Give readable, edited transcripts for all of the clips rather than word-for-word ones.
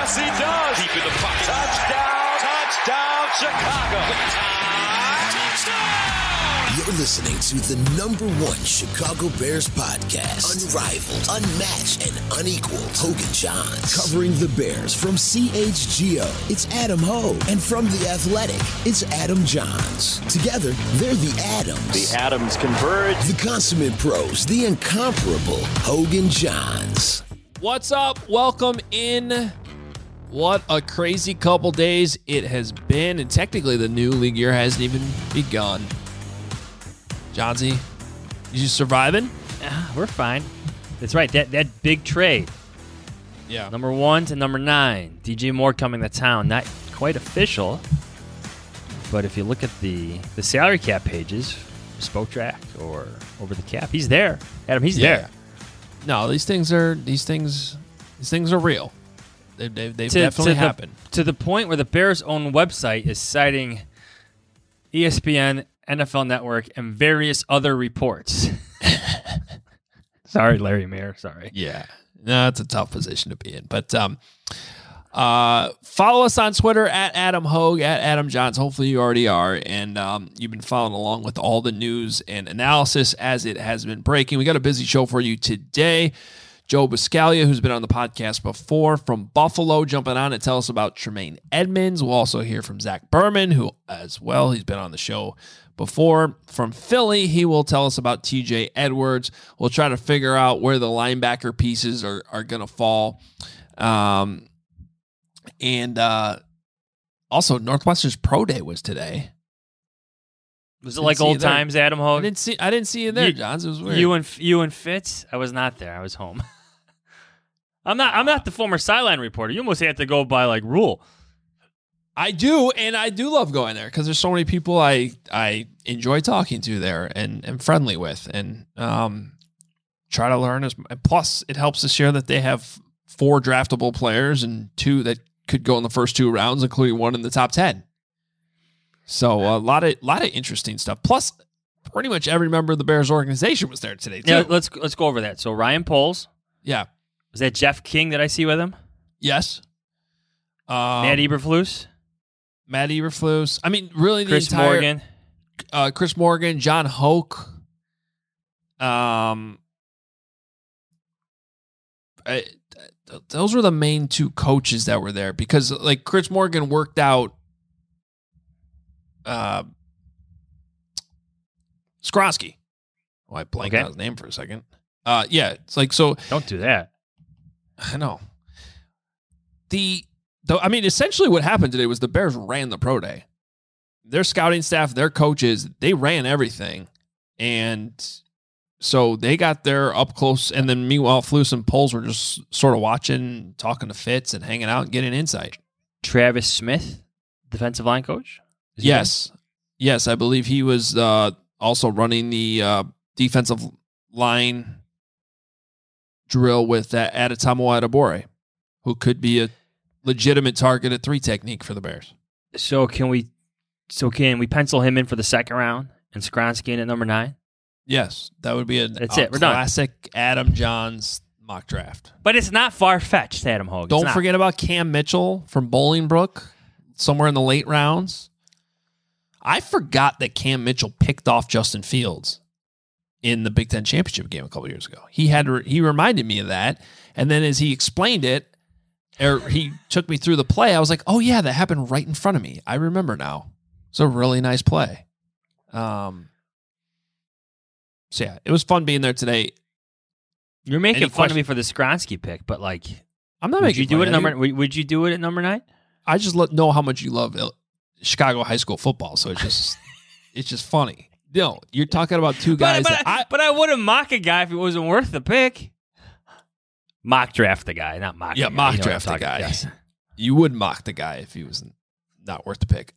Yes, he does. Deep in the pocket. Touchdown, Chicago. Touchdown. You're listening to the #1 Chicago Bears podcast. Unrivaled, unmatched, and unequaled. Hogan Johns. Covering the Bears from CHGO, it's Adam Hogue. And from The Athletic, it's Adam Johns. Together, they're the Adams. The Adams converge. The consummate pros, the incomparable Hogan Johns. What's up? Welcome in. What a crazy couple days it has been. And technically, the new league year hasn't even begun. Johnsy, you surviving? We're fine. That's right. That big trade. Yeah. Number 1 to number 9. DJ Moore coming to town. Not quite official. But if you look at the salary cap pages, Spoke Track or Over the Cap, he's there. Adam, he's there. No, these things are real. They've definitely happened. To the point where the Bears' own website is citing ESPN, NFL Network, and various other reports. Sorry, Larry Mayer. Sorry. Yeah. No, it's a tough position to be in. But follow us on Twitter at Adam Hogue, at Adam Johns. Hopefully you already are. And you've been following along with all the news and analysis as it has been breaking. We got a busy show for you today. Joe Buscaglia, who's been on the podcast before from Buffalo, jumping on to tell us about Tremaine Edmonds. We'll also hear from Zach Berman, who as well, he's been on the show before. From Philly, he will tell us about TJ Edwards. We'll try to figure out where the linebacker pieces are going to fall. And also, Northwestern's Pro Day was today. Was it like old times, Adam Hogue? I didn't see you there, Johns. It was weird. You and Fitz? I was not there. I was home. I'm not the former sideline reporter. You almost have to go by like rule. I do, and I do love going there because there's so many people I enjoy talking to there and am friendly with, and try to learn. And plus, it helps to share that they have 4 draftable players and 2 that could go in the first 2 rounds, including 1 in the top 10. So a lot of interesting stuff. Plus, pretty much every member of the Bears organization was there today too. Yeah, let's go over that. So Ryan Poles. Yeah. Was that Jeff King that I see with him? Yes. Matt Eberflus. I mean, really, Chris Morgan. Chris Morgan, John Hoke. Those were the main 2 coaches that were there because, like, Chris Morgan worked out Skronsky. Oh, I blanked out his name for a second. Yeah, it's like so. Don't do that. I know. I mean, essentially, what happened today was the Bears ran the pro day. Their scouting staff, their coaches, they ran everything, and so they got there up close. And then, meanwhile, Flus and Poles were just sort of watching, talking to Fitz, and hanging out and getting insight. Travis Smith, defensive line coach. Yes, I believe he was also running the defensive line drill with Adetomo Adebawore, who could be a legitimate target at 3 technique for the Bears. So can we pencil him in for the second round and Skronsky in at number 9? Yes, that would be That's it. We're classic done. Adam Johns mock draft. But it's not far-fetched, Adam Hogue. Don't forget about Cam Mitchell from Bolingbrook, somewhere in the late rounds. I forgot that Cam Mitchell picked off Justin Fields in the Big Ten championship game a couple years ago. He reminded me of that, and then as he explained it, or he took me through the play, I was like, "Oh yeah, that happened right in front of me. I remember now." It's a really nice play. So yeah, it was fun being there today. You're making fun of me for the Skronsky pick, but like, I'm not making fun of you. Would you do it at number 9? I just know how much you love Chicago high school football, so it's just funny. No, you're talking about 2 guys. But I wouldn't mock a guy if it wasn't worth the pick. Mock draft the guy, not mock. Yeah, mock draft the guy. Yes. You would mock the guy if he was not worth the pick.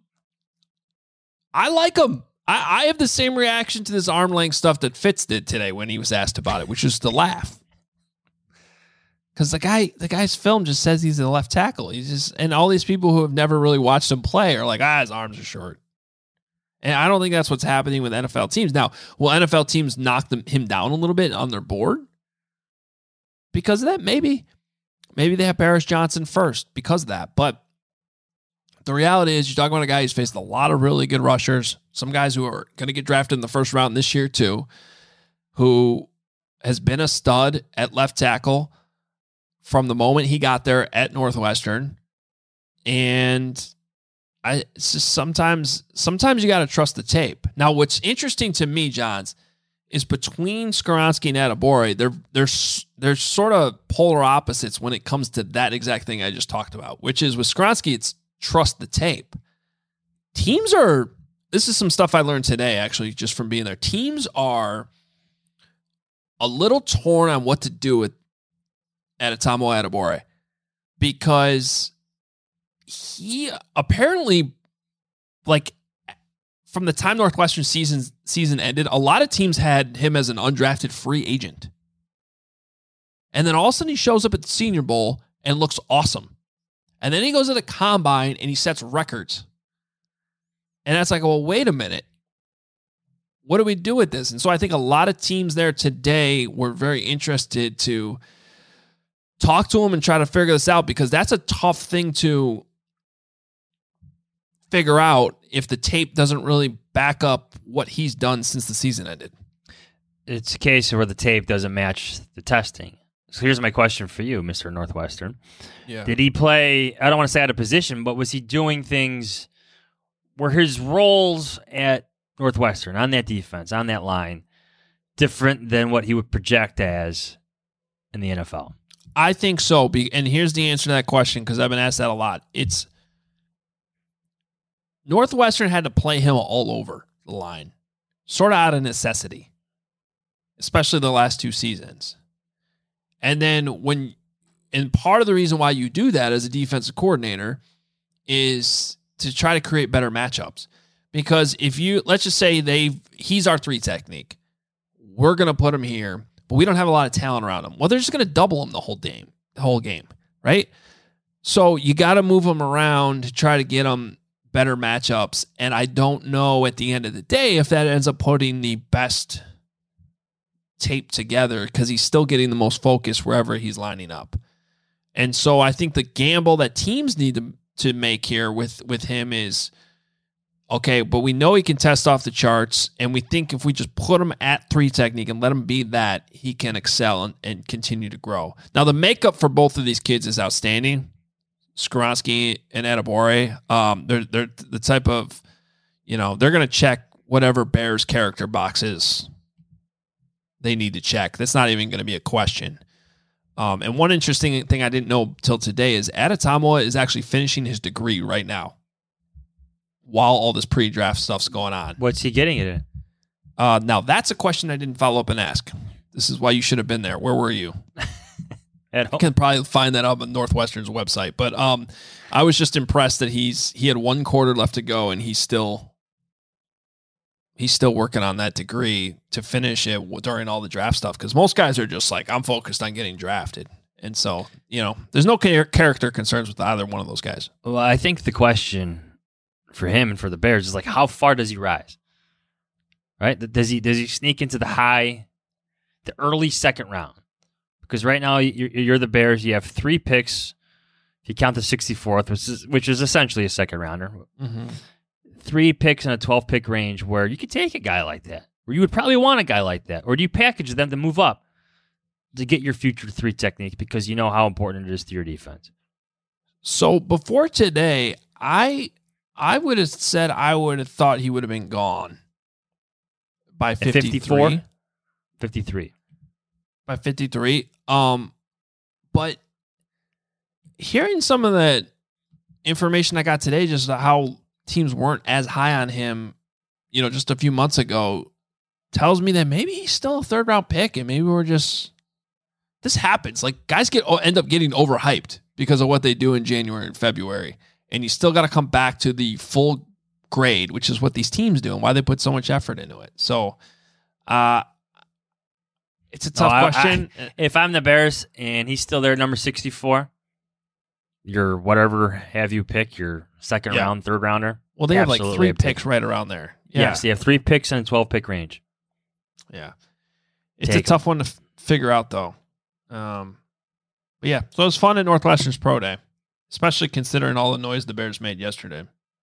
I like him. I have the same reaction to this arm length stuff that Fitz did today when he was asked about it, which is to laugh. Because the guy's film just says he's a left tackle. And all these people who have never really watched him play are like, his arms are short. And I don't think that's what's happening with NFL teams. Now, will NFL teams knock him down a little bit on their board? Because of that, maybe. maybe they have Paris Johnson first because of that. But the reality is, you're talking about a guy who's faced a lot of really good rushers, some guys who are going to get drafted in the first round this year too, who has been a stud at left tackle from the moment he got there at Northwestern. And it's just sometimes you got to trust the tape. Now, what's interesting to me, Johns, is between Skoronski and Adebawore, they're sort of polar opposites when it comes to that exact thing I just talked about, which is with Skoronski, it's trust the tape. This is some stuff I learned today, actually, just from being there. Teams are a little torn on what to do with Adetomo Adebawore, because he apparently, like, from the time Northwestern season ended, a lot of teams had him as an undrafted free agent. And then all of a sudden he shows up at the Senior Bowl and looks awesome. And then he goes to the Combine and he sets records. And that's like, well, wait a minute. What do we do with this? And so I think a lot of teams there today were very interested to talk to him and try to figure this out, because that's a tough thing to figure out if the tape doesn't really back up what he's done since the season ended. It's a case where the tape doesn't match the testing. So here's my question for you, Mr. Northwestern. Yeah. Did he play, I don't want to say out of position, but was he doing things where his roles at Northwestern, on that defense, on that line, different than what he would project as in the NFL? I think so. And here's the answer to that question, because I've been asked that a lot. It's Northwestern had to play him all over the line, sort of out of necessity, especially the last two seasons. And then and part of the reason why you do that as a defensive coordinator is to try to create better matchups. Because if let's just say he's our 3 technique, we're going to put him here, but we don't have a lot of talent around him. Well, they're just going to double him the whole game, right? So you got to move him around to try to get him better matchups. And I don't know at the end of the day if that ends up putting the best tape together, because he's still getting the most focus wherever he's lining up. And so I think the gamble that teams need to make here with him is, okay, but we know he can test off the charts, and we think if we just put him at 3 technique and let him be that, he can excel and continue to grow. Now, the makeup for both of these kids is outstanding. Skoronski and Adebawore, they're the type of, they're going to check whatever Bears character boxes they need to check. That's not even going to be a question. And one interesting thing I didn't know till today is Adetomo is actually finishing his degree right now while all this pre-draft stuff's going on. What's he getting it in? Now, that's a question I didn't follow up and ask. This is why you should have been there. Where were you? At home. You can probably find that up on Northwestern's website. But I was just impressed that he had 1 quarter left to go, and he's still working on that degree to finish it during all the draft stuff. Because most guys are just like, I'm focused on getting drafted. And so, there's no character concerns with either one of those guys. Well, I think the question for him and for the Bears is like, how far does he rise? Right? Does he sneak into the early second round? Because right now you're the Bears. You have 3 picks. If you count the 64th, which is essentially a second rounder. Mm-hmm. 3 picks in a 12-pick range where you could take a guy like that, where you would probably want a guy like that, or do you package them to move up to get your future 3 technique because you know how important it is to your defense? So before today, I would have said I would have thought he would have been gone by 53. 53. By 53. But hearing some of that information I got today, just how teams weren't as high on him, just a few months ago, tells me that maybe he's still a 3rd-round pick, and maybe this happens. Like, guys end up getting overhyped because of what they do in January and February, and you still got to come back to the full grade, which is what these teams do and why they put so much effort into it. So, it's a tough question. If I'm the Bears and he's still there at number 64, your whatever have you pick, your second round, 3rd rounder. Well, they have like 3 picks right around there. Yeah. Yes, they have 3 picks in a 12-pick range. Yeah. It's a tough one to figure out, though. But yeah, so it was fun at Northwestern's Pro Day, especially considering all the noise the Bears made yesterday.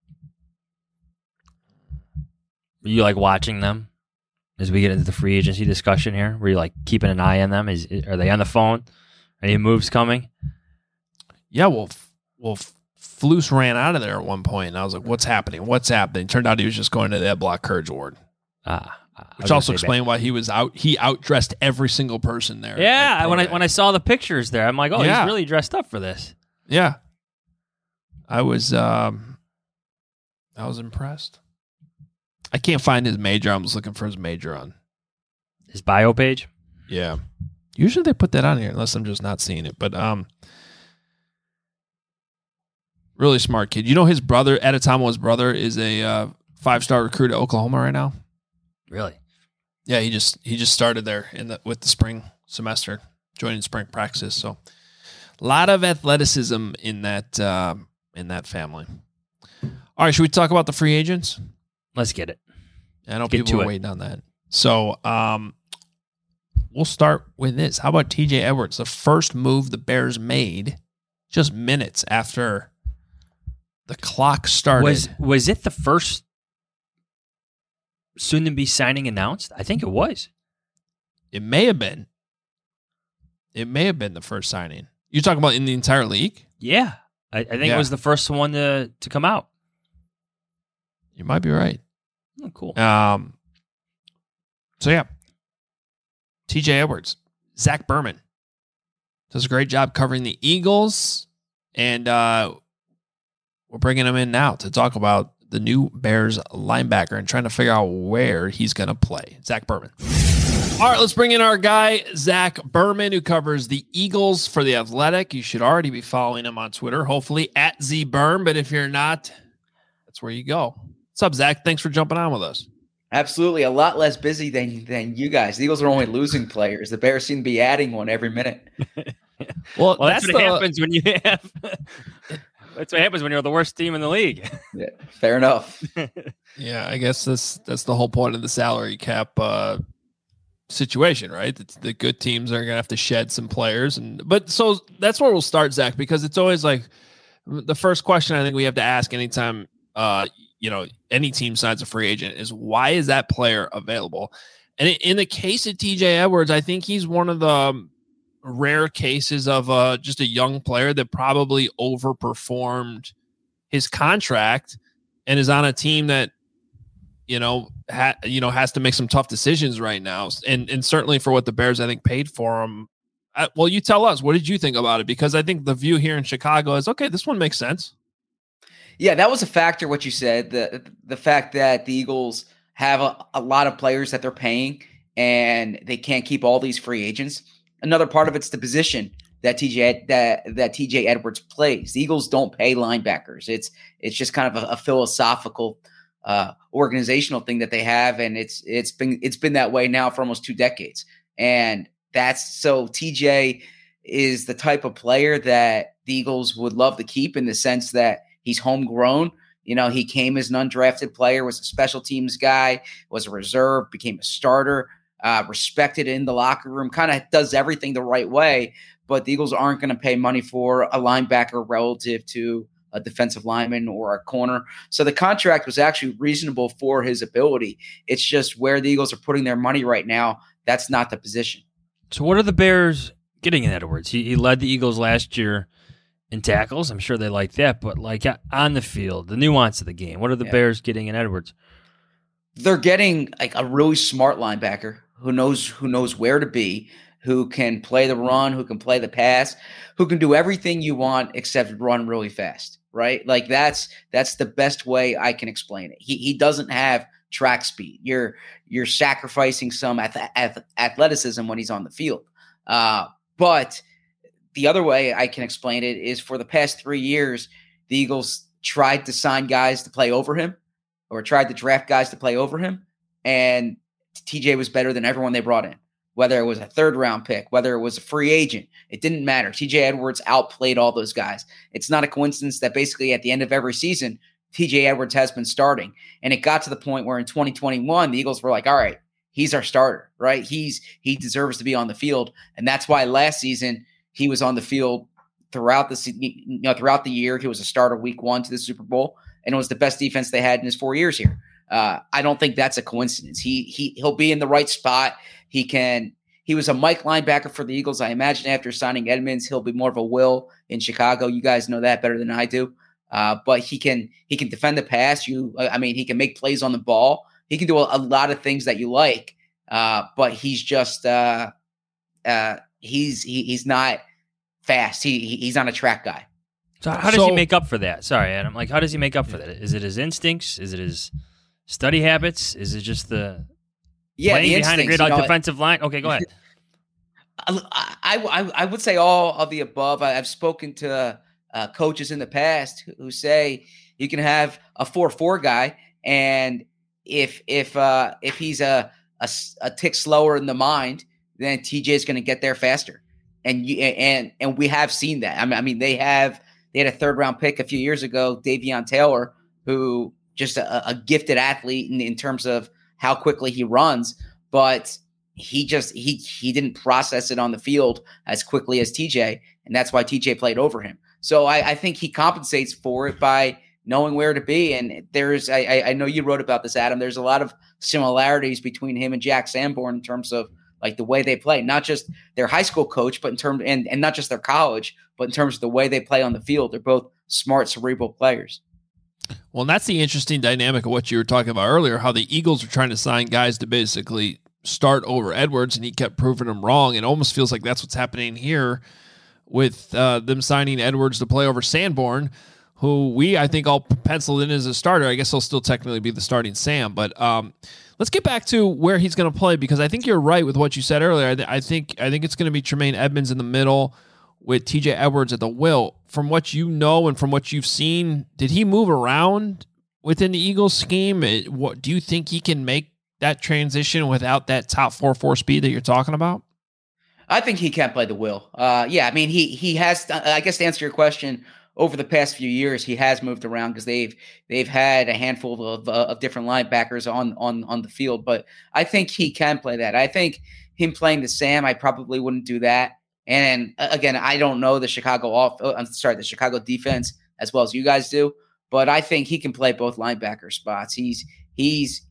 You like watching them as we get into the free agency discussion here? Were you like keeping an eye on them? Are they on the phone? Any moves coming? Yeah, well, Flus ran out of there at one point, and I was like, "What's happening? What's happening?" Turned out he was just going to the Ed Block Courage Award, which also explained why he was out. He outdressed every single person there. Yeah, when I saw the pictures there, I'm like, "Oh, yeah. He's really dressed up for this." Yeah, I was impressed. I can't find his major. I'm just looking for his major on his bio page. Yeah, usually they put that on here, unless I'm just not seeing it. But really smart kid. You know, his brother, Adetomo's brother, is a 5-star recruit at Oklahoma right now. Really? Yeah, he just started there with the spring semester, joining spring practice. So, a lot of athleticism in that family. All right, should we talk about the free agents? Let's get it. I know people are waiting on that. So, we'll start with this. How about TJ Edwards? The first move the Bears made just minutes after the clock started. Was it the first soon-to-be signing announced? I think it was. It may have been. It may have been the first signing. You're talking about in the entire league? Yeah. I think it was the first one to come out. You might be right. Oh, cool. So, yeah. TJ Edwards. Zach Berman does a great job covering the Eagles. And we're bringing him in now to talk about the new Bears linebacker and trying to figure out where he's going to play. Zach Berman. All right, let's bring in our guy, Zach Berman, who covers the Eagles for The Athletic. You should already be following him on Twitter, hopefully at ZBerm. But if you're not, that's where you go. What's up, Zach? Thanks for jumping on with us. Absolutely. A lot less busy than you guys. The Eagles are only losing players. The Bears seem to be adding one every minute. Well, that's what happens when you have... That's what happens when you're the worst team in the league. Yeah, fair enough. Yeah, I guess that's the whole point of the salary cap situation, right? The good teams are going to have to shed some players, but so that's where we'll start, Zach, because it's always like the first question I think we have to ask anytime any team signs a free agent is, why is that player available? And in the case of TJ Edwards, I think he's one of the rare cases of just a young player that probably overperformed his contract and is on a team that has to make some tough decisions right now, and certainly for what the Bears I think paid for him. Well, you tell us, what did you think about it? Because I think the view here in Chicago is, okay, this one makes sense. Yeah, that was a factor, what you said, the fact that the Eagles have a lot of players that they're paying and they can't keep all these free agents. Another part of it's the position that TJ Edwards plays. The Eagles don't pay linebackers. It's just kind of a philosophical organizational thing that they have, and it's been that way now for almost 2 decades. And so TJ is the type of player that the Eagles would love to keep, in the sense that he's homegrown. He came as an undrafted player, was a special teams guy, was a reserve, became a starter. Respected in the locker room, kind of does everything the right way, but the Eagles aren't going to pay money for a linebacker relative to a defensive lineman or a corner. So the contract was actually reasonable for his ability. It's just where the Eagles are putting their money right now, that's not the position. So what are the Bears getting in Edwards? He led the Eagles last year in tackles. I'm sure they like that, but like on the field, the nuance of the game, what are the Bears getting in Edwards? They're getting like a really smart linebacker who knows where to be, who can play the run, who can play the pass, who can do everything you want except run really fast, right? Like that's the best way I can explain it. He doesn't have track speed. You're sacrificing some athleticism when he's on the field. But the other way I can explain it is, for the past 3 years, the Eagles tried to sign guys to play over him, or tried to draft guys to play over him, and TJ was better than everyone they brought in. Whether it was a 3rd-round pick, whether it was a free agent, it didn't matter. TJ Edwards outplayed all those guys. It's not a coincidence that basically at the end of every season, TJ Edwards has been starting. And it got to the point where in 2021, the Eagles were like, all right, he's our starter, right? He deserves to be on the field. And that's why last season he was on the field throughout the year. He was a starter week 1 to the Super Bowl, and it was the best defense they had in his 4 years here. I don't think that's a coincidence. He'll be in the right spot. He was a Mike linebacker for the Eagles. I imagine after signing Edmonds, he'll be more of a Will in Chicago. You guys know that better than I do. But he can defend the pass. He can make plays on the ball. He can do a lot of things that you like. But he's just he's not fast. He's not a track guy. So how does he make up for that? Sorry, Adam. Like, how does he make up for that? Is it his instincts? Is it his study habits? Is it just the playing behind a great defensive line? Okay, go ahead. I would say all of the above. I've spoken to coaches in the past who say you can have a 4.4 guy, and if he's a tick slower in the mind, then TJ is going to get there faster. And we have seen that. I mean, they had a 3rd round pick a few years ago, Davion Taylor, who just a gifted athlete in terms of how quickly he runs, but he didn't process it on the field as quickly as TJ, and that's why TJ played over him. So I think he compensates for it by knowing where to be. And I know you wrote about this, Adam. There's a lot of similarities between him and Jack Sanborn in terms of like the way they play, not just their high school coach, but in terms and not just their college, but in terms of the way they play on the field. They're both smart, cerebral players. Well, and that's the interesting dynamic of what you were talking about earlier, how the Eagles are trying to sign guys to basically start over Edwards, and he kept proving them wrong. It almost feels like that's what's happening here with them signing Edwards to play over Sanborn, who I think all penciled in as a starter. I guess he'll still technically be the starting Sam, but let's get back to where he's going to play, because I think you're right with what you said earlier. I think it's going to be Tremaine Edmonds in the middle with TJ Edwards at the will. From what you know and from what you've seen, did he move around within the Eagles scheme? What do you think he can make that transition without that top 4.4 speed that you're talking about? I think he can play the will. Yeah, I mean, he has. I guess to answer your question, over the past few years, he has moved around because they've had a handful of different linebackers on the field. But I think he can play that. I think him playing the Sam, I probably wouldn't do that. And again, I don't know the the Chicago defense as well as you guys do, but I think he can play both linebacker spots. He's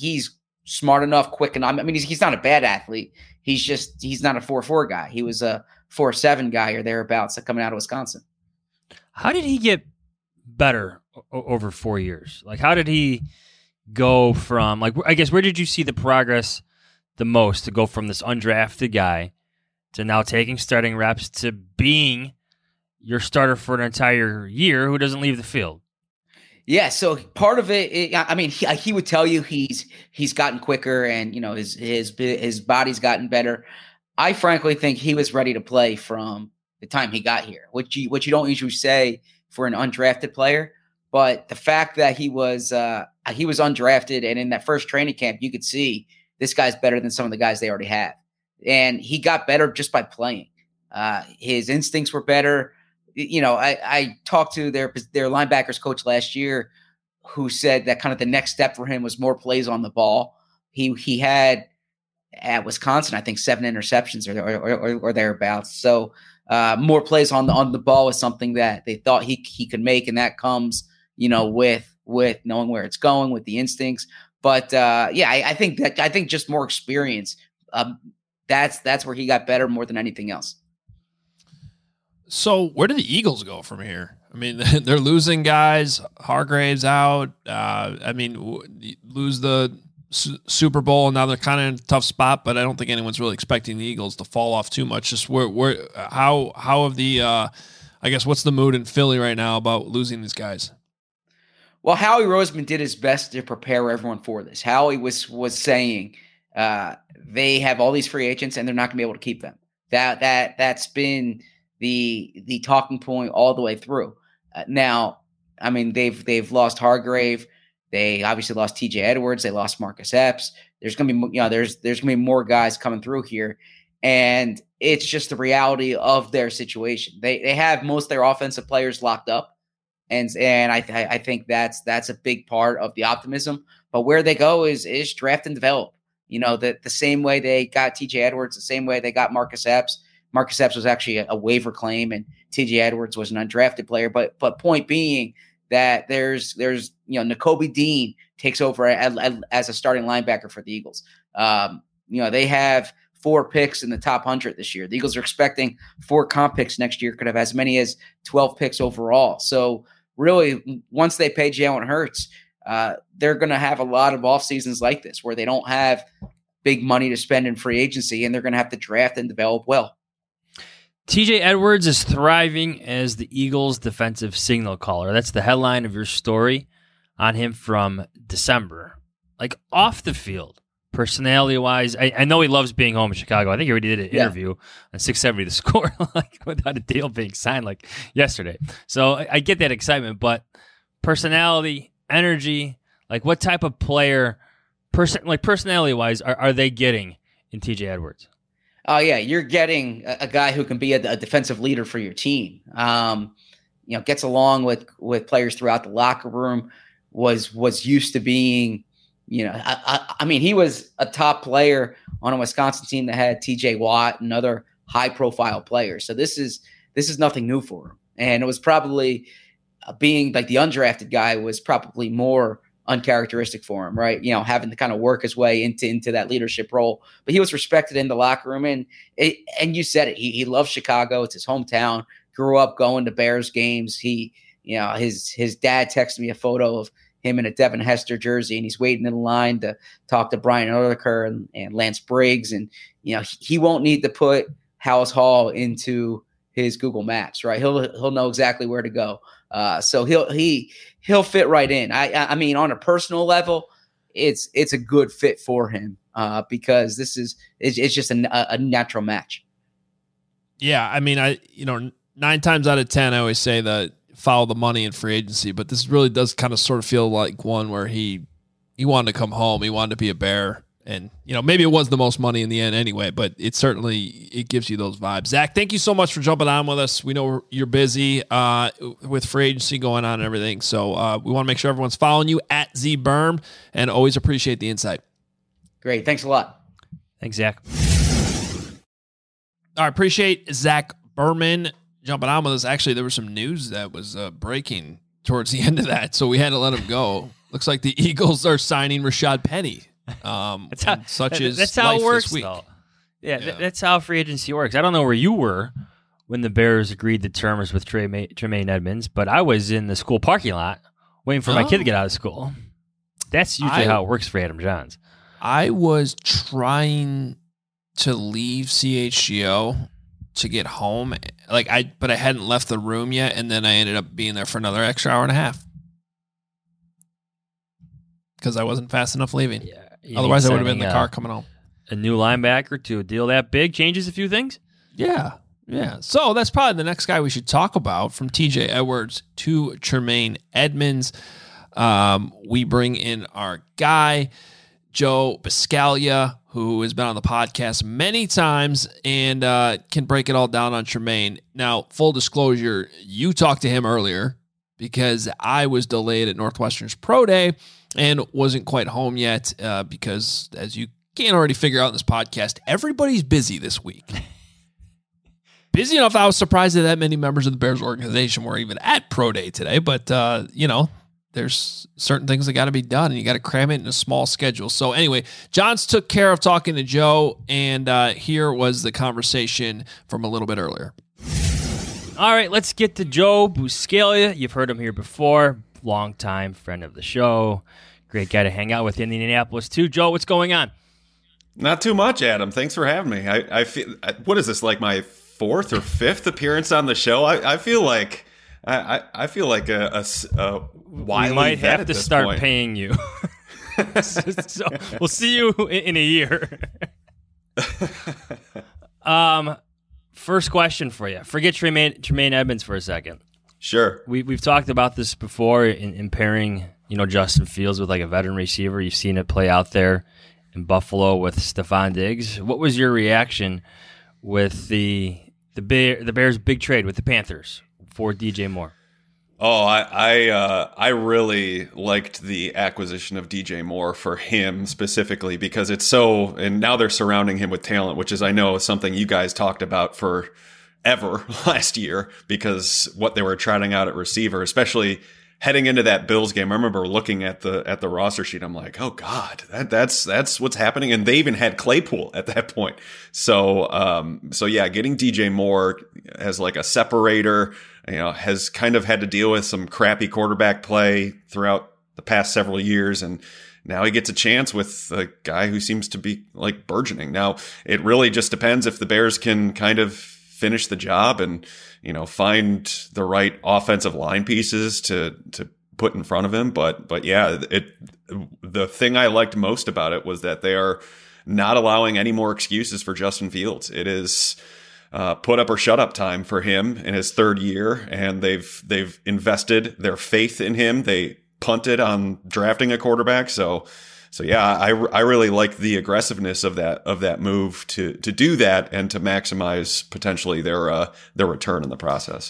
smart enough, quick enough. I mean, he's not a bad athlete. He's not a 4.4 guy. He was a 4.7 guy or thereabouts coming out of Wisconsin. How did he get better over 4 years? Like, how did he go from, like, I guess, where did you see the progress the most to go from this undrafted guy to now taking starting reps to being your starter for an entire year who doesn't leave the field? Yeah, so part of it, I mean, he would tell you he's gotten quicker and, you know, his body's gotten better. I frankly think he was ready to play from the time he got here, which you don't usually say for an undrafted player. But the fact that he was undrafted, and in that first training camp, you could see this guy's better than some of the guys they already have. And he got better just by playing. His instincts were better. You know, I talked to their linebackers coach last year, who said that kind of the next step for him was more plays on the ball. He had at Wisconsin, I think 7 interceptions or thereabouts. So more plays on the ball is something that they thought he could make, and that comes, you know, with knowing where it's going, with the instincts. But I think just more experience. That's where he got better more than anything else. So where do the Eagles go from here? I mean, they're losing guys. Hargrave's out. Lose the Super Bowl, and now they're kind of in a tough spot. But I don't think anyone's really expecting the Eagles to fall off too much. Just how have the I guess what's the mood in Philly right now about losing these guys? Well, Howie Roseman did his best to prepare everyone for this. Howie was saying they have all these free agents and they're not going to be able to keep them. That's been the talking point all the way through. Now, I mean, they've lost Hargrave. They obviously lost TJ Edwards. They lost Marcus Epps. There's going to be, there's going to be more guys coming through here, and it's just the reality of their situation. They have most of their offensive players locked up, and I think that's a big part of the optimism. But where they go is draft and develop. You know, the same way they got TJ Edwards, the same way they got Marcus Epps. Marcus Epps was actually a waiver claim, and TJ Edwards was an undrafted player. But point being that there's Nakobe Dean takes over as a starting linebacker for the Eagles. They have 4 picks in the top 100 this year. The Eagles are expecting 4 comp picks next year, could have as many as 12 picks overall. So really, once they pay Jalen Hurts, they're going to have a lot of off seasons like this where they don't have big money to spend in free agency, and they're going to have to draft and develop well. TJ Edwards is thriving as the Eagles' defensive signal caller. That's the headline of your story on him from December. Like off the field, personality-wise, I know he loves being home in Chicago. I think he already did an interview on 670 The Score, like without a deal being signed like yesterday. So I get that excitement, but personality, energy, like what type of player, personality-wise, are they getting in TJ Edwards? Oh yeah, you're getting a guy who can be a defensive leader for your team. Gets along with players throughout the locker room. Was used to being, I mean, he was a top player on a Wisconsin team that had T.J. Watt and other high-profile players. So this is nothing new for him, and it was probably being like the undrafted guy was probably more uncharacteristic for him, right? Having to kind of work his way into that leadership role. But he was respected in the locker room, and you said it. He loves Chicago. It's his hometown. Grew up going to Bears games. His dad texted me a photo of him in a Devin Hester jersey, and he's waiting in line to talk to Brian Urlacher and Lance Briggs. And he won't need to put House Hall into his Google Maps, right? He'll know exactly where to go. So he'll fit right in. I mean, on a personal level, it's a good fit for him because it's just a natural match. Yeah, I mean, 9 times out of 10, I always say that follow the money in free agency, but this really does kind of sort of feel like one where he wanted to come home, he wanted to be a Bear, and maybe it was the most money in the end anyway, but it gives you those vibes. Zach, thank you so much for jumping on with us. We know you're busy with free agency going on and everything, so we want to make sure everyone's following you at ZBerm, and always appreciate the insight. Great, thanks a lot. Thanks, Zach. All right, appreciate Zach Berman jumping on with us. Actually, there was some news that was breaking towards the end of that, so we had to let him go. Looks like the Eagles are signing Rashad Penny. That's how it works, though. Yeah. That's how free agency works. I don't know where you were when the Bears agreed to terms with Tremaine Edmonds, but I was in the school parking lot waiting for my kid to get out of school. That's usually how it works for Adam Johns. I was trying to leave CHGO to get home, but I hadn't left the room yet, and then I ended up being there for another extra hour and a half because I wasn't fast enough leaving. Yeah, otherwise I would have been in the car coming home. A new linebacker to a deal that big changes a few things. Yeah. So that's probably the next guy we should talk about, from TJ Edwards to Tremaine Edmonds. We bring in our guy, Joe Buscaglia, who has been on the podcast many times and can break it all down on Tremaine. Now, full disclosure, you talked to him earlier because I was delayed at Northwestern's Pro Day and wasn't quite home yet because, as you can already figure out in this podcast, everybody's busy this week. Busy enough, I was surprised that many members of the Bears organization were even at Pro Day today, but, there's certain things that got to be done, and you got to cram it in a small schedule. So anyway, Johns took care of talking to Joe, and here was the conversation from a little bit earlier. All right, let's get to Joe Buscaglia. You've heard him here before, longtime friend of the show, great guy to hang out with in Indianapolis too. Joe, what's going on? Not too much, Adam. Thanks for having me. I feel, what is this, like my 4th or 5th appearance on the show? I feel like I feel like a wily we might vet have to at this start point. paying you. So we'll see you in a year. First question for you. Forget Tremaine Edmonds for a second. Sure. We've talked about this before in pairing, Justin Fields with like a veteran receiver. You've seen it play out there in Buffalo with Stephon Diggs. What was your reaction with the Bears' big trade with the Panthers for DJ Moore? Oh, I really liked the acquisition of DJ Moore for him specifically because it's so, and now they're surrounding him with talent, which is, I know, something you guys talked about for ever last year because what they were trotting out at receiver, especially heading into that Bills game. I remember looking at the roster sheet. I'm like, oh God, that's what's happening. And they even had Claypool at that point. So yeah, getting DJ Moore as like a separator, has kind of had to deal with some crappy quarterback play throughout the past several years. And now he gets a chance with a guy who seems to be like burgeoning. Now it really just depends if the Bears can kind of finish the job and, find the right offensive line pieces to put in front of him. But yeah, the thing I liked most about it was that they are not allowing any more excuses for Justin Fields. It is put up or shut up time for him in his third year, and they've invested their faith in him. They punted on drafting a quarterback, so yeah, I really like the aggressiveness of that move to do that and to maximize potentially their return in the process.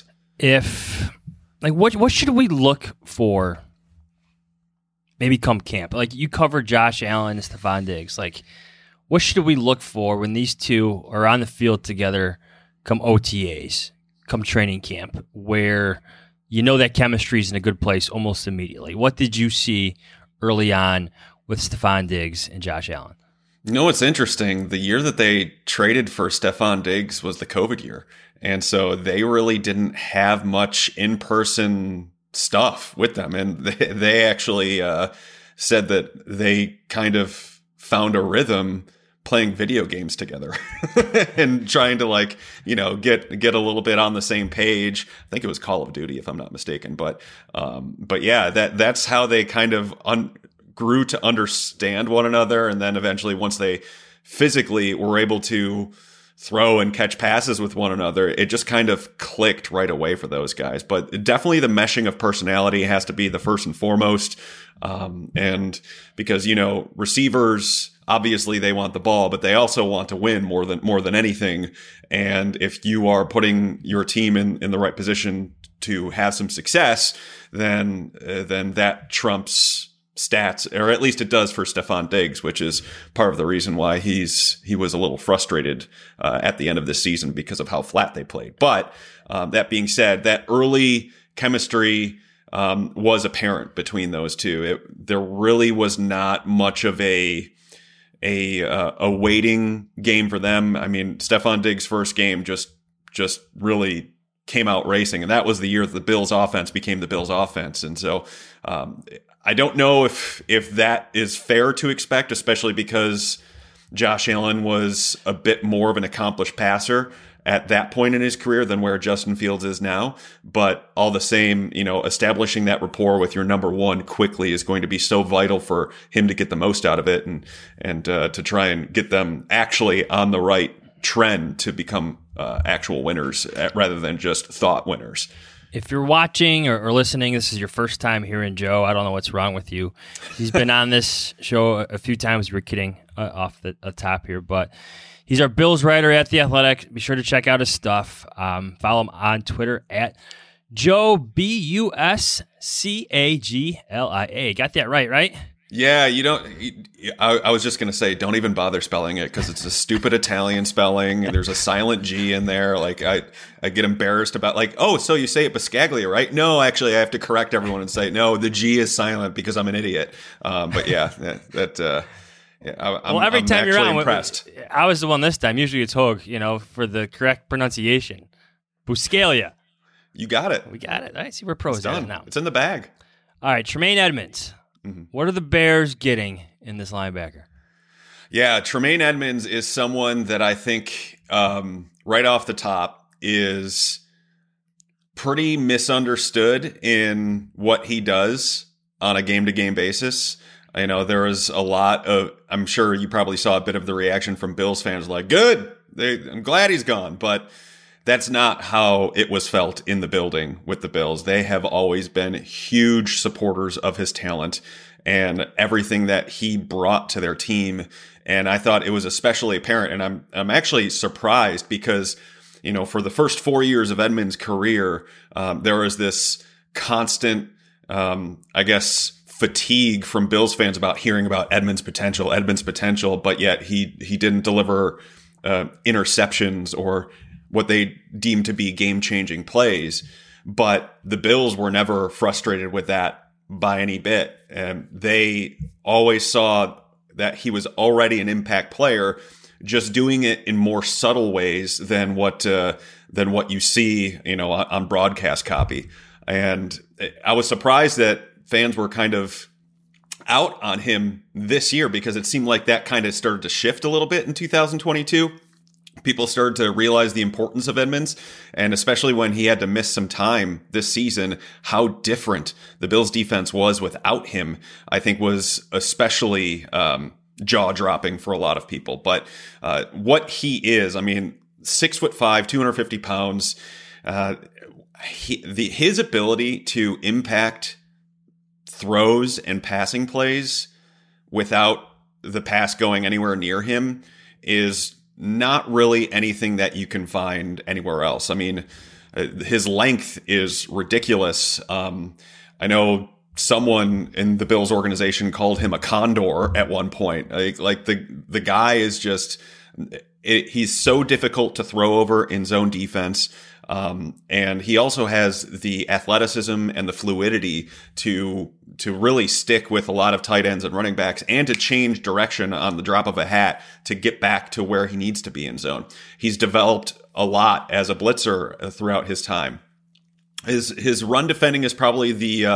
What should we look for? Maybe come camp. Like you covered Josh Allen and Stephon Diggs. Like what should we look for when these two are on the field together? Come OTAs, come training camp, where that chemistry is in a good place almost immediately. What did you see early on with Stephon Diggs and Josh Allen? What's interesting? The year that they traded for Stephon Diggs was the COVID year. And so they really didn't have much in-person stuff with them. And they actually said that they kind of found a rhythm playing video games together and trying to get a little bit on the same page. I think it was Call of Duty, if I'm not mistaken. But yeah, that's how they kind of grew to understand one another. And then eventually, once they physically were able to throw and catch passes with one another, it just kind of clicked right away for those guys. But definitely the meshing of personality has to be the first and foremost. And because, receivers, obviously they want the ball, but they also want to win more than anything. And if you are putting your team in the right position to have some success, then that trumps stats, or at least it does for Stephon Diggs, which is part of the reason why he was a little frustrated at the end of this season because of how flat they played. But that being said, that early chemistry was apparent between those two. There really was not much of a waiting game for them. I mean, Stephon Diggs' first game just really came out racing, and that was the year that the Bills offense became the Bills offense. And so I don't know if that is fair to expect, especially because Josh Allen was a bit more of an accomplished passer at that point in his career than where Justin Fields is now. But all the same, establishing that rapport with your number one quickly is going to be so vital for him to get the most out of it and to try and get them actually on the right trend to become actual winners rather than just thought winners. If you're watching or listening, this is your first time hearing Joe, I don't know what's wrong with you. He's been on this show a few times. We're kidding off the top here, but he's our Bills writer at The Athletic. Be sure to check out his stuff. Follow him on Twitter at Joe Buscaglia. Got that right? Yeah, I was just going to say, don't even bother spelling it because it's a stupid Italian spelling. There's a silent G in there. Like I get embarrassed about so you say it Buscaglia, right? No, actually I have to correct everyone and say, no, the G is silent because I'm an idiot. But yeah, I'm every time you're on, impressed. I was the one this time. Usually it's Hogue, for the correct pronunciation. Buscaglia. You got it. We got it. I see we're pros at it now. It's in the bag. All right, Tremaine Edmunds. Mm-hmm. What are the Bears getting in this linebacker? Yeah, Tremaine Edmunds is someone that I think right off the top is pretty misunderstood in what he does on a game-to-game basis. There was a lot of, I'm sure you probably saw a bit of the reaction from Bills fans like, good, I'm glad he's gone. But that's not how it was felt in the building with the Bills. They have always been huge supporters of his talent and everything that he brought to their team. And I thought it was especially apparent. And I'm actually surprised because, for the first 4 years of Edmunds' career, there was this constant, I guess, fatigue from Bills fans about hearing about Edmonds' potential, but yet he didn't deliver interceptions or what they deemed to be game-changing plays. But the Bills were never frustrated with that by any bit. And they always saw that he was already an impact player, just doing it in more subtle ways than what you see, on broadcast copy. And I was surprised that fans were kind of out on him this year, because it seemed like that kind of started to shift a little bit in 2022. People started to realize the importance of Edmonds, and especially when he had to miss some time this season, how different the Bills defense was without him, I think was especially jaw-dropping for a lot of people. But what he is, 6'5", 250 pounds, his ability to impact throws and passing plays without the pass going anywhere near him is not really anything that you can find anywhere else. His length is ridiculous. I know someone in the Bills organization called him a condor at one point. Like the guy is just, he's so difficult to throw over in zone defense. And he also has the athleticism and the fluidity to really stick with a lot of tight ends and running backs, and to change direction on the drop of a hat to get back to where he needs to be in zone. He's developed a lot as a blitzer throughout his time. His run defending is probably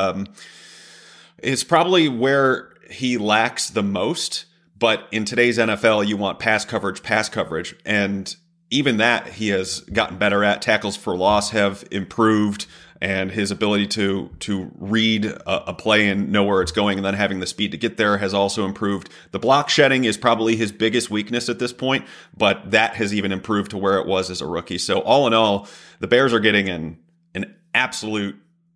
where he lacks the most. But in today's NFL, you want pass coverage. And even that he has gotten better at. Tackles for loss have improved, and his ability to read a play and know where it's going and then having the speed to get there has also improved. The block shedding is probably his biggest weakness at this point, but that has even improved to where it was as a rookie. So all in all, the Bears are getting an absolute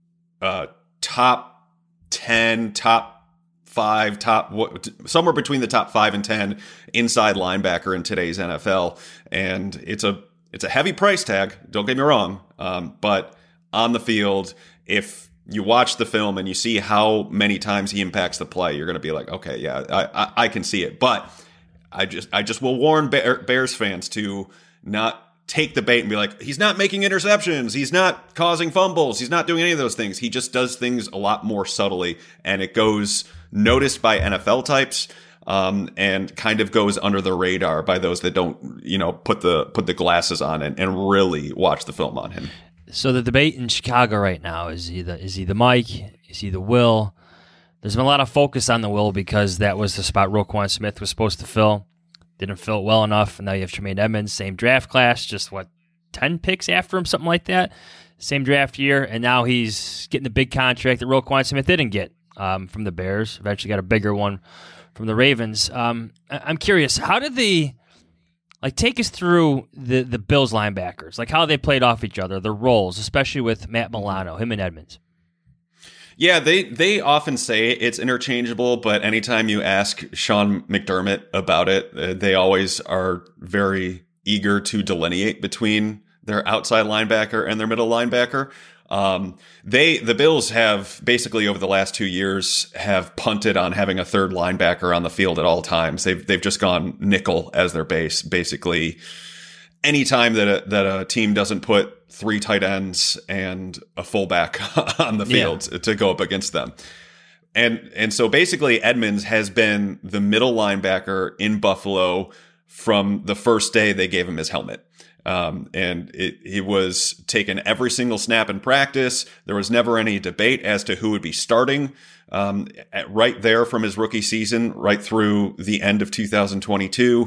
top 10, top 5, somewhere between the top 5 and 10 inside linebacker in today's NFL. And it's a heavy price tag, don't get me wrong. But on the field, if you watch the film and you see how many times he impacts the play, you're going to be like, okay, yeah, I can see it. But I just will warn Bears fans to not take the bait and be like, he's not making interceptions, he's not causing fumbles, he's not doing any of those things. He just does things a lot more subtly, and it goes noticed by NFL types, and kind of goes under the radar by those that don't, put the glasses on and really watch the film on him. So the debate in Chicago right now is he the Mike, is he the Will? There's been a lot of focus on the Will because that was the spot Roquan Smith was supposed to fill. Didn't fill it well enough, and now you have Tremaine Edmonds, same draft class, just 10 picks after him, something like that. Same draft year, and now he's getting the big contract that Roquan Smith didn't get from the Bears. Eventually got a bigger one from the Ravens. I'm curious, how did take us through the Bills linebackers, how they played off each other, their roles, especially with Matt Milano, him and Edmonds. Yeah, they often say it's interchangeable, but anytime you ask Sean McDermott about it, they always are very eager to delineate between their outside linebacker and their middle linebacker. The Bills have basically over the last 2 years have punted on having a third linebacker on the field at all times. They've just gone nickel as their base. Basically, anytime that a team doesn't put 3 tight ends and a fullback on the field to go up against them. And so basically Edmonds has been the middle linebacker in Buffalo from the first day they gave him his helmet. And he was taken every single snap in practice. There was never any debate as to who would be starting right there from his rookie season, right through the end of 2022.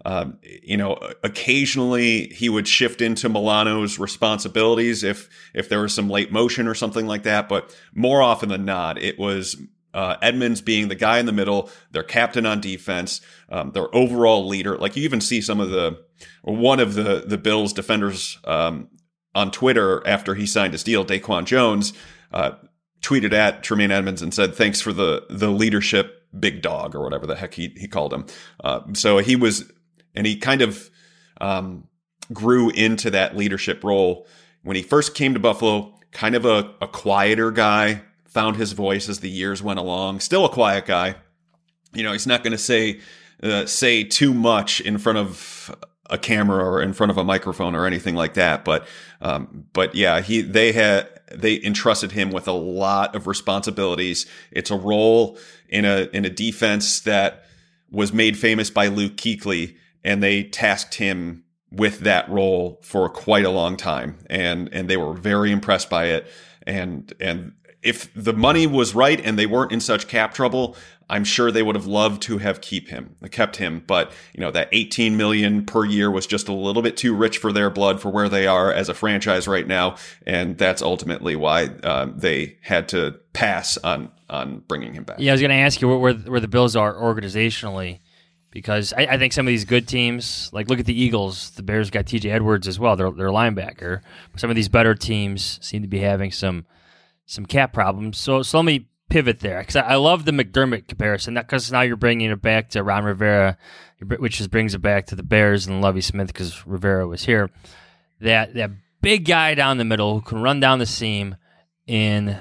Occasionally he would shift into Milano's responsibilities if there was some late motion or something like that. But more often than not, it was Edmonds being the guy in the middle, their captain on defense, their overall leader. Like you even see one of the Bills defenders on Twitter after he signed his deal, Daquan Jones, tweeted at Tremaine Edmonds and said, "Thanks for the leadership, big dog," or whatever the heck he called him. So he was, and he kind of grew into that leadership role. When he first came to Buffalo, kind of a quieter guy, found his voice as the years went along. Still a quiet guy. He's not going to say too much in front of a camera or in front of a microphone or anything like that. But yeah, they entrusted him with a lot of responsibilities. It's a role in a defense that was made famous by Luke Kuechly, and they tasked him with that role for quite a long time. And they were very impressed by it. And if the money was right and they weren't in such cap trouble, I'm sure they would have loved to have kept him. But, that $18 million per year was just a little bit too rich for their blood for where they are as a franchise right now. And that's ultimately why they had to pass on bringing him back. Yeah, I was going to ask you where the Bills are organizationally, because I think some of these good teams, like look at the Eagles, the Bears got TJ Edwards as well, their linebacker. Some of these better teams seem to be having some cap problems. So let me pivot there, because I love the McDermott comparison, because now you're bringing it back to Ron Rivera, which brings it back to the Bears and Lovie Smith because Rivera was here. That big guy down the middle who can run down the seam in,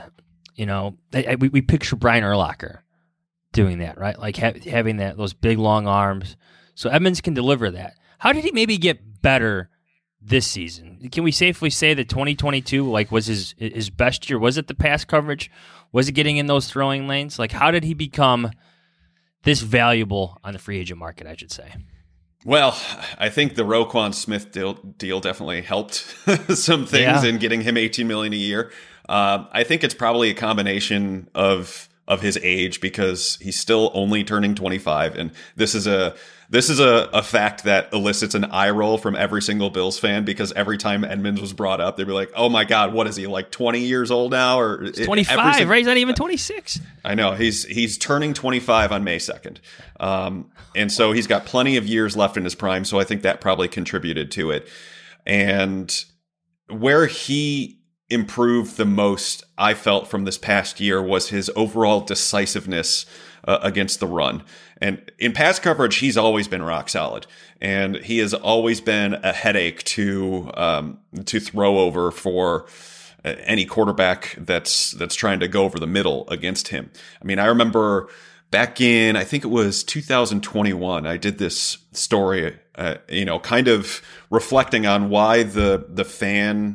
we picture Brian Urlacher doing that, right? Like having those big long arms. So Edmonds can deliver that. How did he maybe get better this season? Can we safely say that 2022 was his best year? Was it the pass coverage? Was it getting in those throwing lanes? How did he become this valuable on the free agent market, I should say? Well, I think the Roquan Smith deal definitely helped some things in getting him $18 million a year. I think it's probably a combination of his age, because he's still only turning 25, and this is a fact that elicits an eye roll from every single Bills fan, because every time Edmonds was brought up, they'd be like, "Oh my God, what is he, like 20 years old now?" Or he's 25, right? He's not even 26. I know he's turning 25 on May 2nd, and so he's got plenty of years left in his prime. So I think that probably contributed to it, and where he improved the most, I felt, from this past year was his overall decisiveness against the run. And in pass coverage, he's always been rock solid, and he has always been a headache to throw over for any quarterback that's trying to go over the middle against him. I mean, I remember back in, I think it was 2021, I did this story, kind of reflecting on why the fan,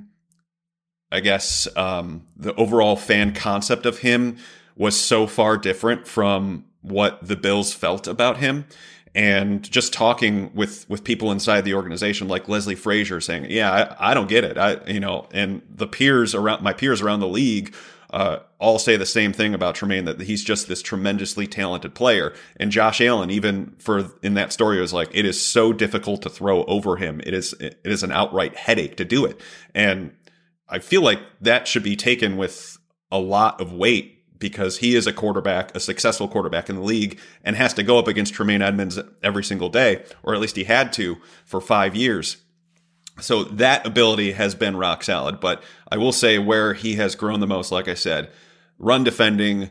I guess, the overall fan concept of him was so far different from what the Bills felt about him. And just talking with people inside the organization, like Leslie Frazier, saying, "Yeah, I don't get it." And my peers around the league all say the same thing about Tremaine, that he's just this tremendously talented player. And Josh Allen, even in that story, was like, "It is so difficult to throw over him. It is an outright headache to do it." And I feel like that should be taken with a lot of weight, because he is a successful quarterback in the league, and has to go up against Tremaine Edmonds every single day, or at least he had to for 5 years. So that ability has been rock solid. But I will say where he has grown the most, like I said, run defending,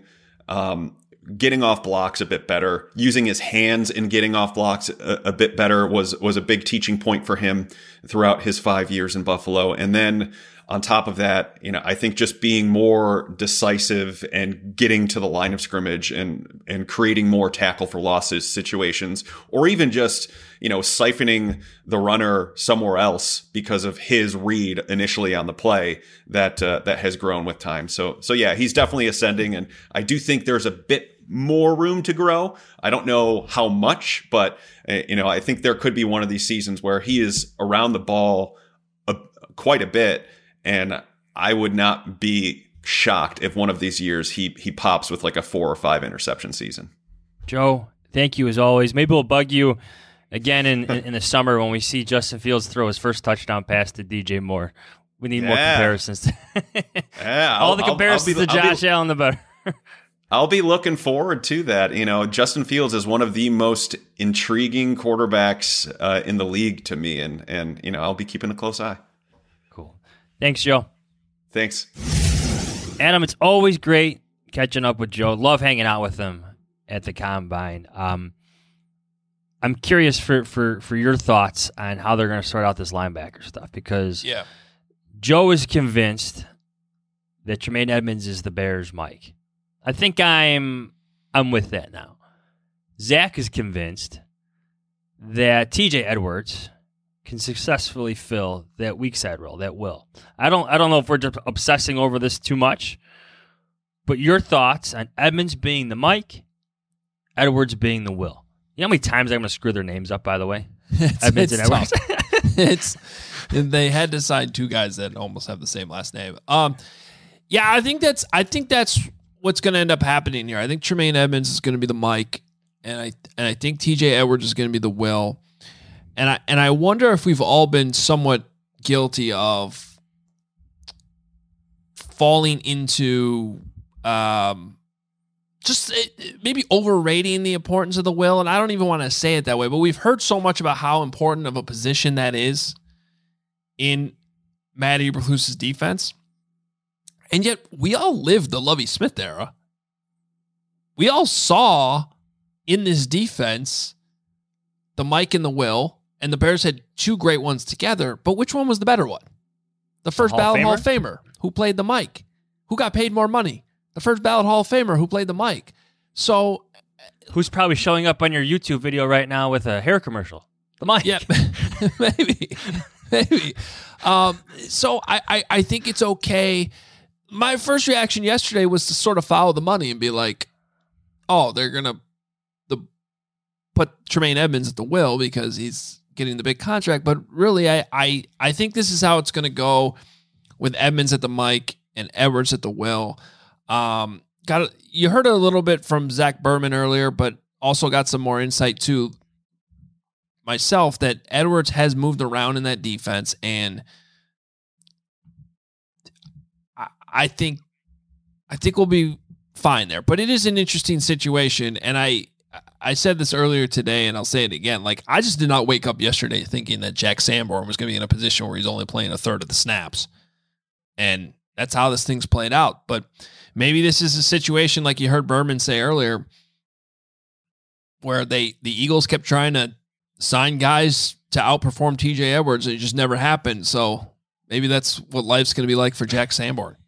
getting off blocks a bit better, using his hands in getting off blocks a bit better was a big teaching point for him throughout his 5 years in Buffalo. And then on top of that, I think just being more decisive and getting to the line of scrimmage and creating more tackle for losses situations, or even just, siphoning the runner somewhere else because of his read initially on the play, that has grown with time. So yeah, he's definitely ascending, and I do think there's a bit more room to grow. I don't know how much, but I think there could be one of these seasons where he is around the ball quite a bit. And I would not be shocked if one of these years he pops with like a 4 or 5 interception season. Joe, thank you as always. Maybe we'll bug you again in the summer when we see Justin Fields throw his first touchdown pass to DJ Moore. We need more comparisons. All the comparisons to Josh Allen, the better. I'll be looking forward to that. Justin Fields is one of the most intriguing quarterbacks in the league to me, and I'll be keeping a close eye. Thanks, Joe. Thanks. Adam, it's always great catching up with Joe. Love hanging out with him at the Combine. I'm curious for your thoughts on how they're going to sort out this linebacker stuff, because Joe is convinced that Tremaine Edmonds is the Bears' Mike. I think I'm with that now. Zach is convinced that TJ Edwards can successfully fill that weak side role, that will. I don't know if we're just obsessing over this too much, but your thoughts on Edmonds being the Mike, Edwards being the Will. You know how many times I'm going to screw their names up, by the way? Edmonds and Edwards. They had to sign two guys that almost have the same last name. Yeah, I think that's what's going to end up happening here. I think Tremaine Edmonds is going to be the Mike, and I think TJ Edwards is going to be the Will. And I wonder if we've all been somewhat guilty of falling into just maybe overrating the importance of the Will. And I don't even want to say it that way, but we've heard so much about how important of a position that is in Matt Eberflus's defense. And yet we all lived the Lovie Smith era. We all saw in this defense the Mike and the Will, and the Bears had two great ones together, but which one was the better one? The first ballot Hall of Famer who played the Mike. Who got paid more money? The first ballot Hall of Famer who played the Mike. So, who's probably showing up on your YouTube video right now with a hair commercial? The Mike. Yeah, maybe. So I think it's okay. My first reaction yesterday was to sort of follow the money and be like, oh, they're going to put Tremaine Edmonds at the Will because he's getting the big contract. But really, I think this is how it's going to go with Edmonds at the Mike and Edwards at the Will. You heard a little bit from Zach Berman earlier, but also got some more insight too myself that Edwards has moved around in that defense, and I think we'll be fine there. But it is an interesting situation, and I said this earlier today, and I'll say it again. Like, I just did not wake up yesterday thinking that Jack Sanborn was going to be in a position where he's only playing a third of the snaps. And that's how this thing's played out. But maybe this is a situation like you heard Berman say earlier, where the Eagles kept trying to sign guys to outperform TJ Edwards, and it just never happened. So maybe that's what life's going to be like for Jack Sanborn.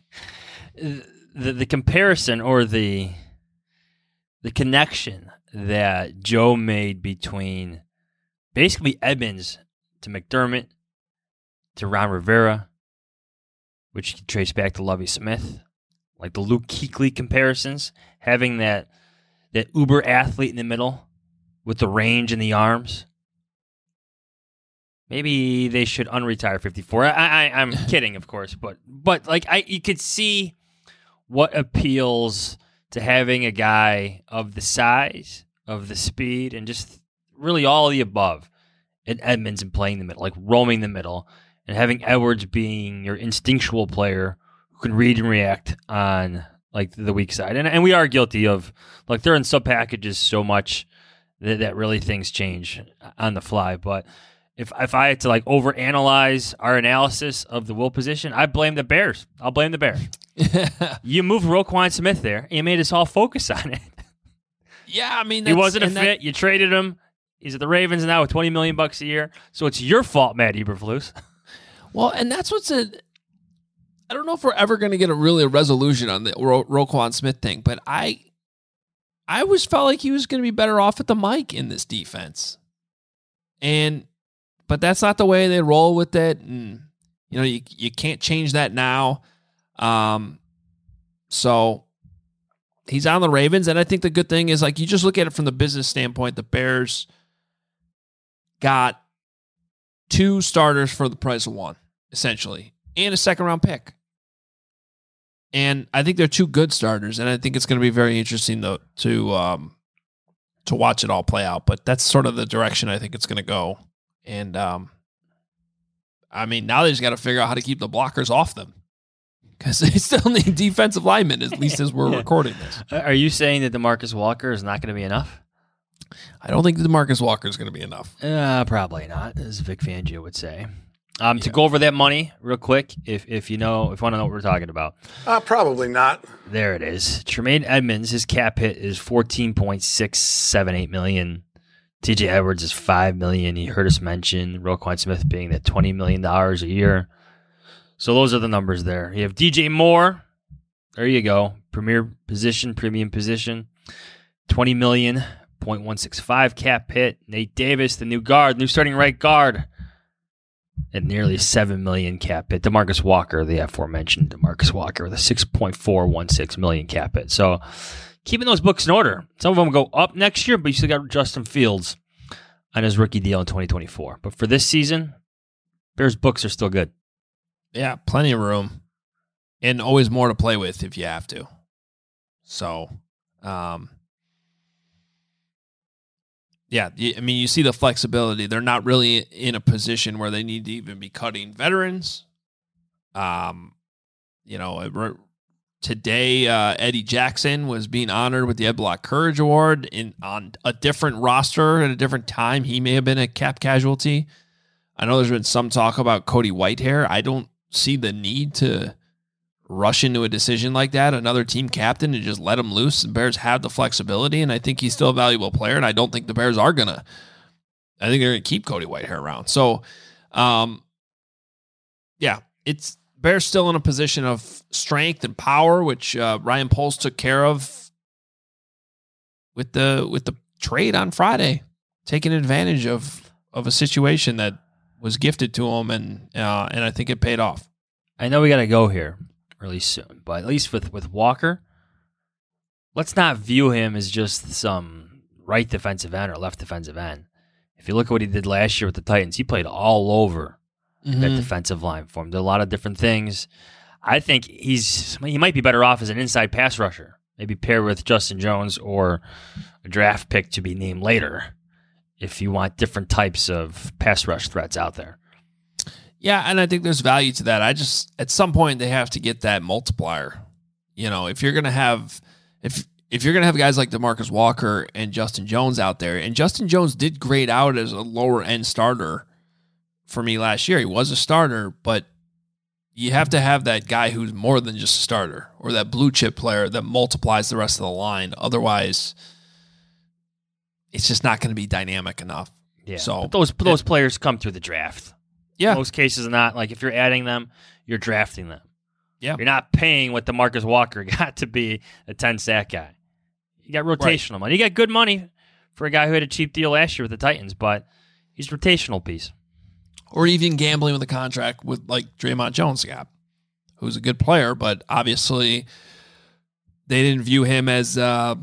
The comparison or the connection that Joe made between basically Edmonds to McDermott to Ron Rivera, which you can trace back to Lovie Smith, like the Luke Kuechly comparisons, having that uber athlete in the middle with the range and the arms. Maybe they should unretire 54. I'm kidding, of course, but like you could see what appeals to having a guy of the size, of the speed, and just really all of the above in Edmonds and playing the middle, like roaming the middle, and having Edwards being your instinctual player who can read and react on like the weak side. And we are guilty of, like, they're in sub packages so much that really things change on the fly. But if I had to like overanalyze our analysis of the Will position, I blame the Bears. I'll blame the Bears. You moved Roquan Smith there, and you made us all focus on it. Yeah, I mean, he wasn't a fit. You traded him. He's at the Ravens now with $20 million a year. So it's your fault, Matt Eberflus. Well, and that's I don't know if we're ever going to get a resolution on the Roquan Smith thing, but I always felt like he was going to be better off at the Mike in this defense. But that's not the way they roll with it. And, you know, you can't change that now. So he's on the Ravens. And I think the good thing is, like, you just look at it from the business standpoint, the Bears got two starters for the price of one, essentially, and a second-round pick. And I think they're two good starters, and I think it's going to be very interesting to watch it all play out. But that's sort of the direction I think it's going to go. And, I mean, now they just got to figure out how to keep the blockers off them, because they still need defensive linemen, at least as we're recording this. Are you saying that DeMarcus Walker is not going to be enough? I don't think DeMarcus Walker is going to be enough. Probably not, as Vic Fangio would say. To go over that money real quick, if you want to know what we're talking about. Probably not. There it is. Tremaine Edmonds, his cap hit is $14.678 million. TJ Edwards is $5 million. You heard us mention Roquan Smith being that $20 million a year. So those are the numbers there. You have DJ Moore. There you go. Premium position. $20 million, 0.165 cap hit. Nate Davis, the new starting right guard, at nearly $7 million cap hit. DeMarcus Walker, the aforementioned DeMarcus Walker, with a $6.416 million cap hit. So keeping those books in order. Some of them go up next year, but you still got Justin Fields on his rookie deal in 2024. But for this season, Bears books are still good. Yeah, plenty of room. And always more to play with if you have to. So, yeah, I mean, you see the flexibility. They're not really in a position where they need to even be cutting veterans. Today, Eddie Jackson was being honored with the Ed Block Courage Award on a different roster at a different time. He may have been a cap casualty. I know there's been some talk about Cody Whitehair. I don't see the need to rush into a decision like that. Another team captain and just let him loose. The Bears have the flexibility, and I think he's still a valuable player, and I don't think the Bears are going to. I think they're going to keep Cody Whitehair around. So, it's Bears still in a position of strength and power, which Ryan Poles took care of with the trade on Friday, taking advantage of a situation that was gifted to him, and I think it paid off. I know we got to go here really soon, but at least with Walker, let's not view him as just some right defensive end or left defensive end. If you look at what he did last year with the Titans, he played all over that defensive line for him. Did a lot of different things. I think he might be better off as an inside pass rusher, maybe paired with Justin Jones or a draft pick to be named later if you want different types of pass rush threats out there. Yeah, and I think there's value to that. At some point they have to get that multiplier. You know, if you're gonna have guys like DeMarcus Walker and Justin Jones out there, and Justin Jones did grade out as a lower end starter for me last year. He was a starter, but you have to have that guy who's more than just a starter, or that blue chip player that multiplies the rest of the line. Otherwise, it's just not going to be dynamic enough. Yeah, so but those players come through the draft. Yeah. In most cases, not like if you're adding them, you're drafting them. Yeah. You're not paying what DeMarcus Walker got to be a 10-sack guy. You got rotational money. You got good money for a guy who had a cheap deal last year with the Titans, but he's a rotational piece. Or even gambling with a contract with like Draymond Jones got, who's a good player, but obviously they didn't view him as,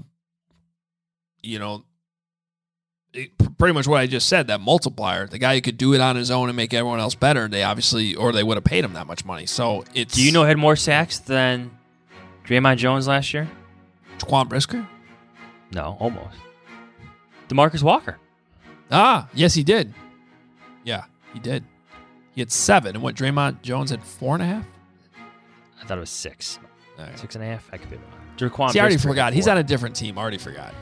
pretty much what I just said, that multiplier, the guy who could do it on his own and make everyone else better. They would have paid him that much money. So it's. Do you know who had more sacks than Draymond Jones last year? Jaquan Brisker? No, almost. DeMarcus Walker. Ah, yes, he did. Yeah, he did. He had 7, and what Draymond Jones had 4.5? I thought it was 6. Right. 6.5? I could be wrong. Jaquan See, I already Brisker forgot. He's on a different team. I already forgot.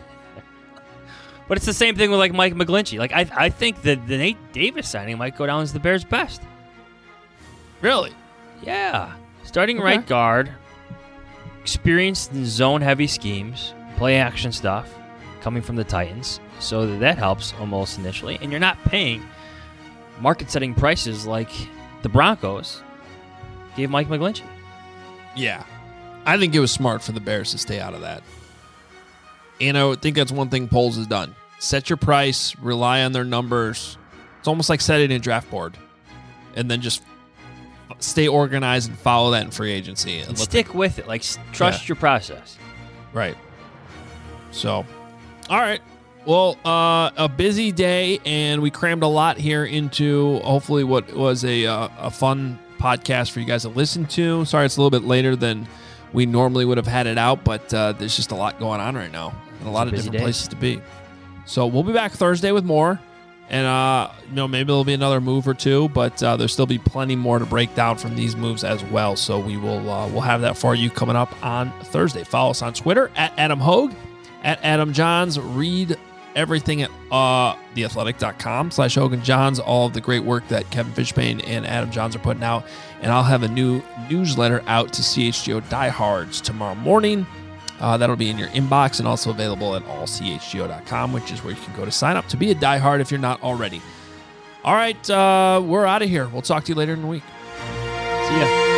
But it's the same thing with like Mike McGlinchey. Like I think that the Nate Davis signing might go down as the Bears' best. Really? Yeah. Starting right guard, experienced in zone-heavy schemes, play-action stuff, coming from the Titans. So that helps almost initially. And you're not paying market-setting prices like the Broncos gave Mike McGlinchey. Yeah. I think it was smart for the Bears to stay out of that. And I think that's one thing Poles has done. Set your price, rely on their numbers. It's almost like setting a draft board. And then just stay organized and follow that in free agency. And stick with it. Like, trust your process. Right. So, all right. Well, a busy day, and we crammed a lot here into hopefully what was a fun podcast for you guys to listen to. Sorry it's a little bit later than we normally would have had it out, but there's just a lot going on right now and a lot of different places to be. So we'll be back Thursday with more, and maybe there'll be another move or two, but there'll still be plenty more to break down from these moves as well. So we will we'll have that for you coming up on Thursday. Follow us on Twitter at Adam Hogue, at Adam Johns. Read everything at theathletic.com/Hogan Johns, all of the great work that Kevin Fishbane and Adam Johns are putting out. And I'll have a new newsletter out to CHGO diehards tomorrow morning. That'll be in your inbox and also available at allchgo.com, which is where you can go to sign up to be a diehard if you're not already. All right, we're out of here. We'll talk to you later in the week. See ya.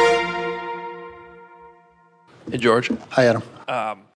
Hey, George. Hi, Adam.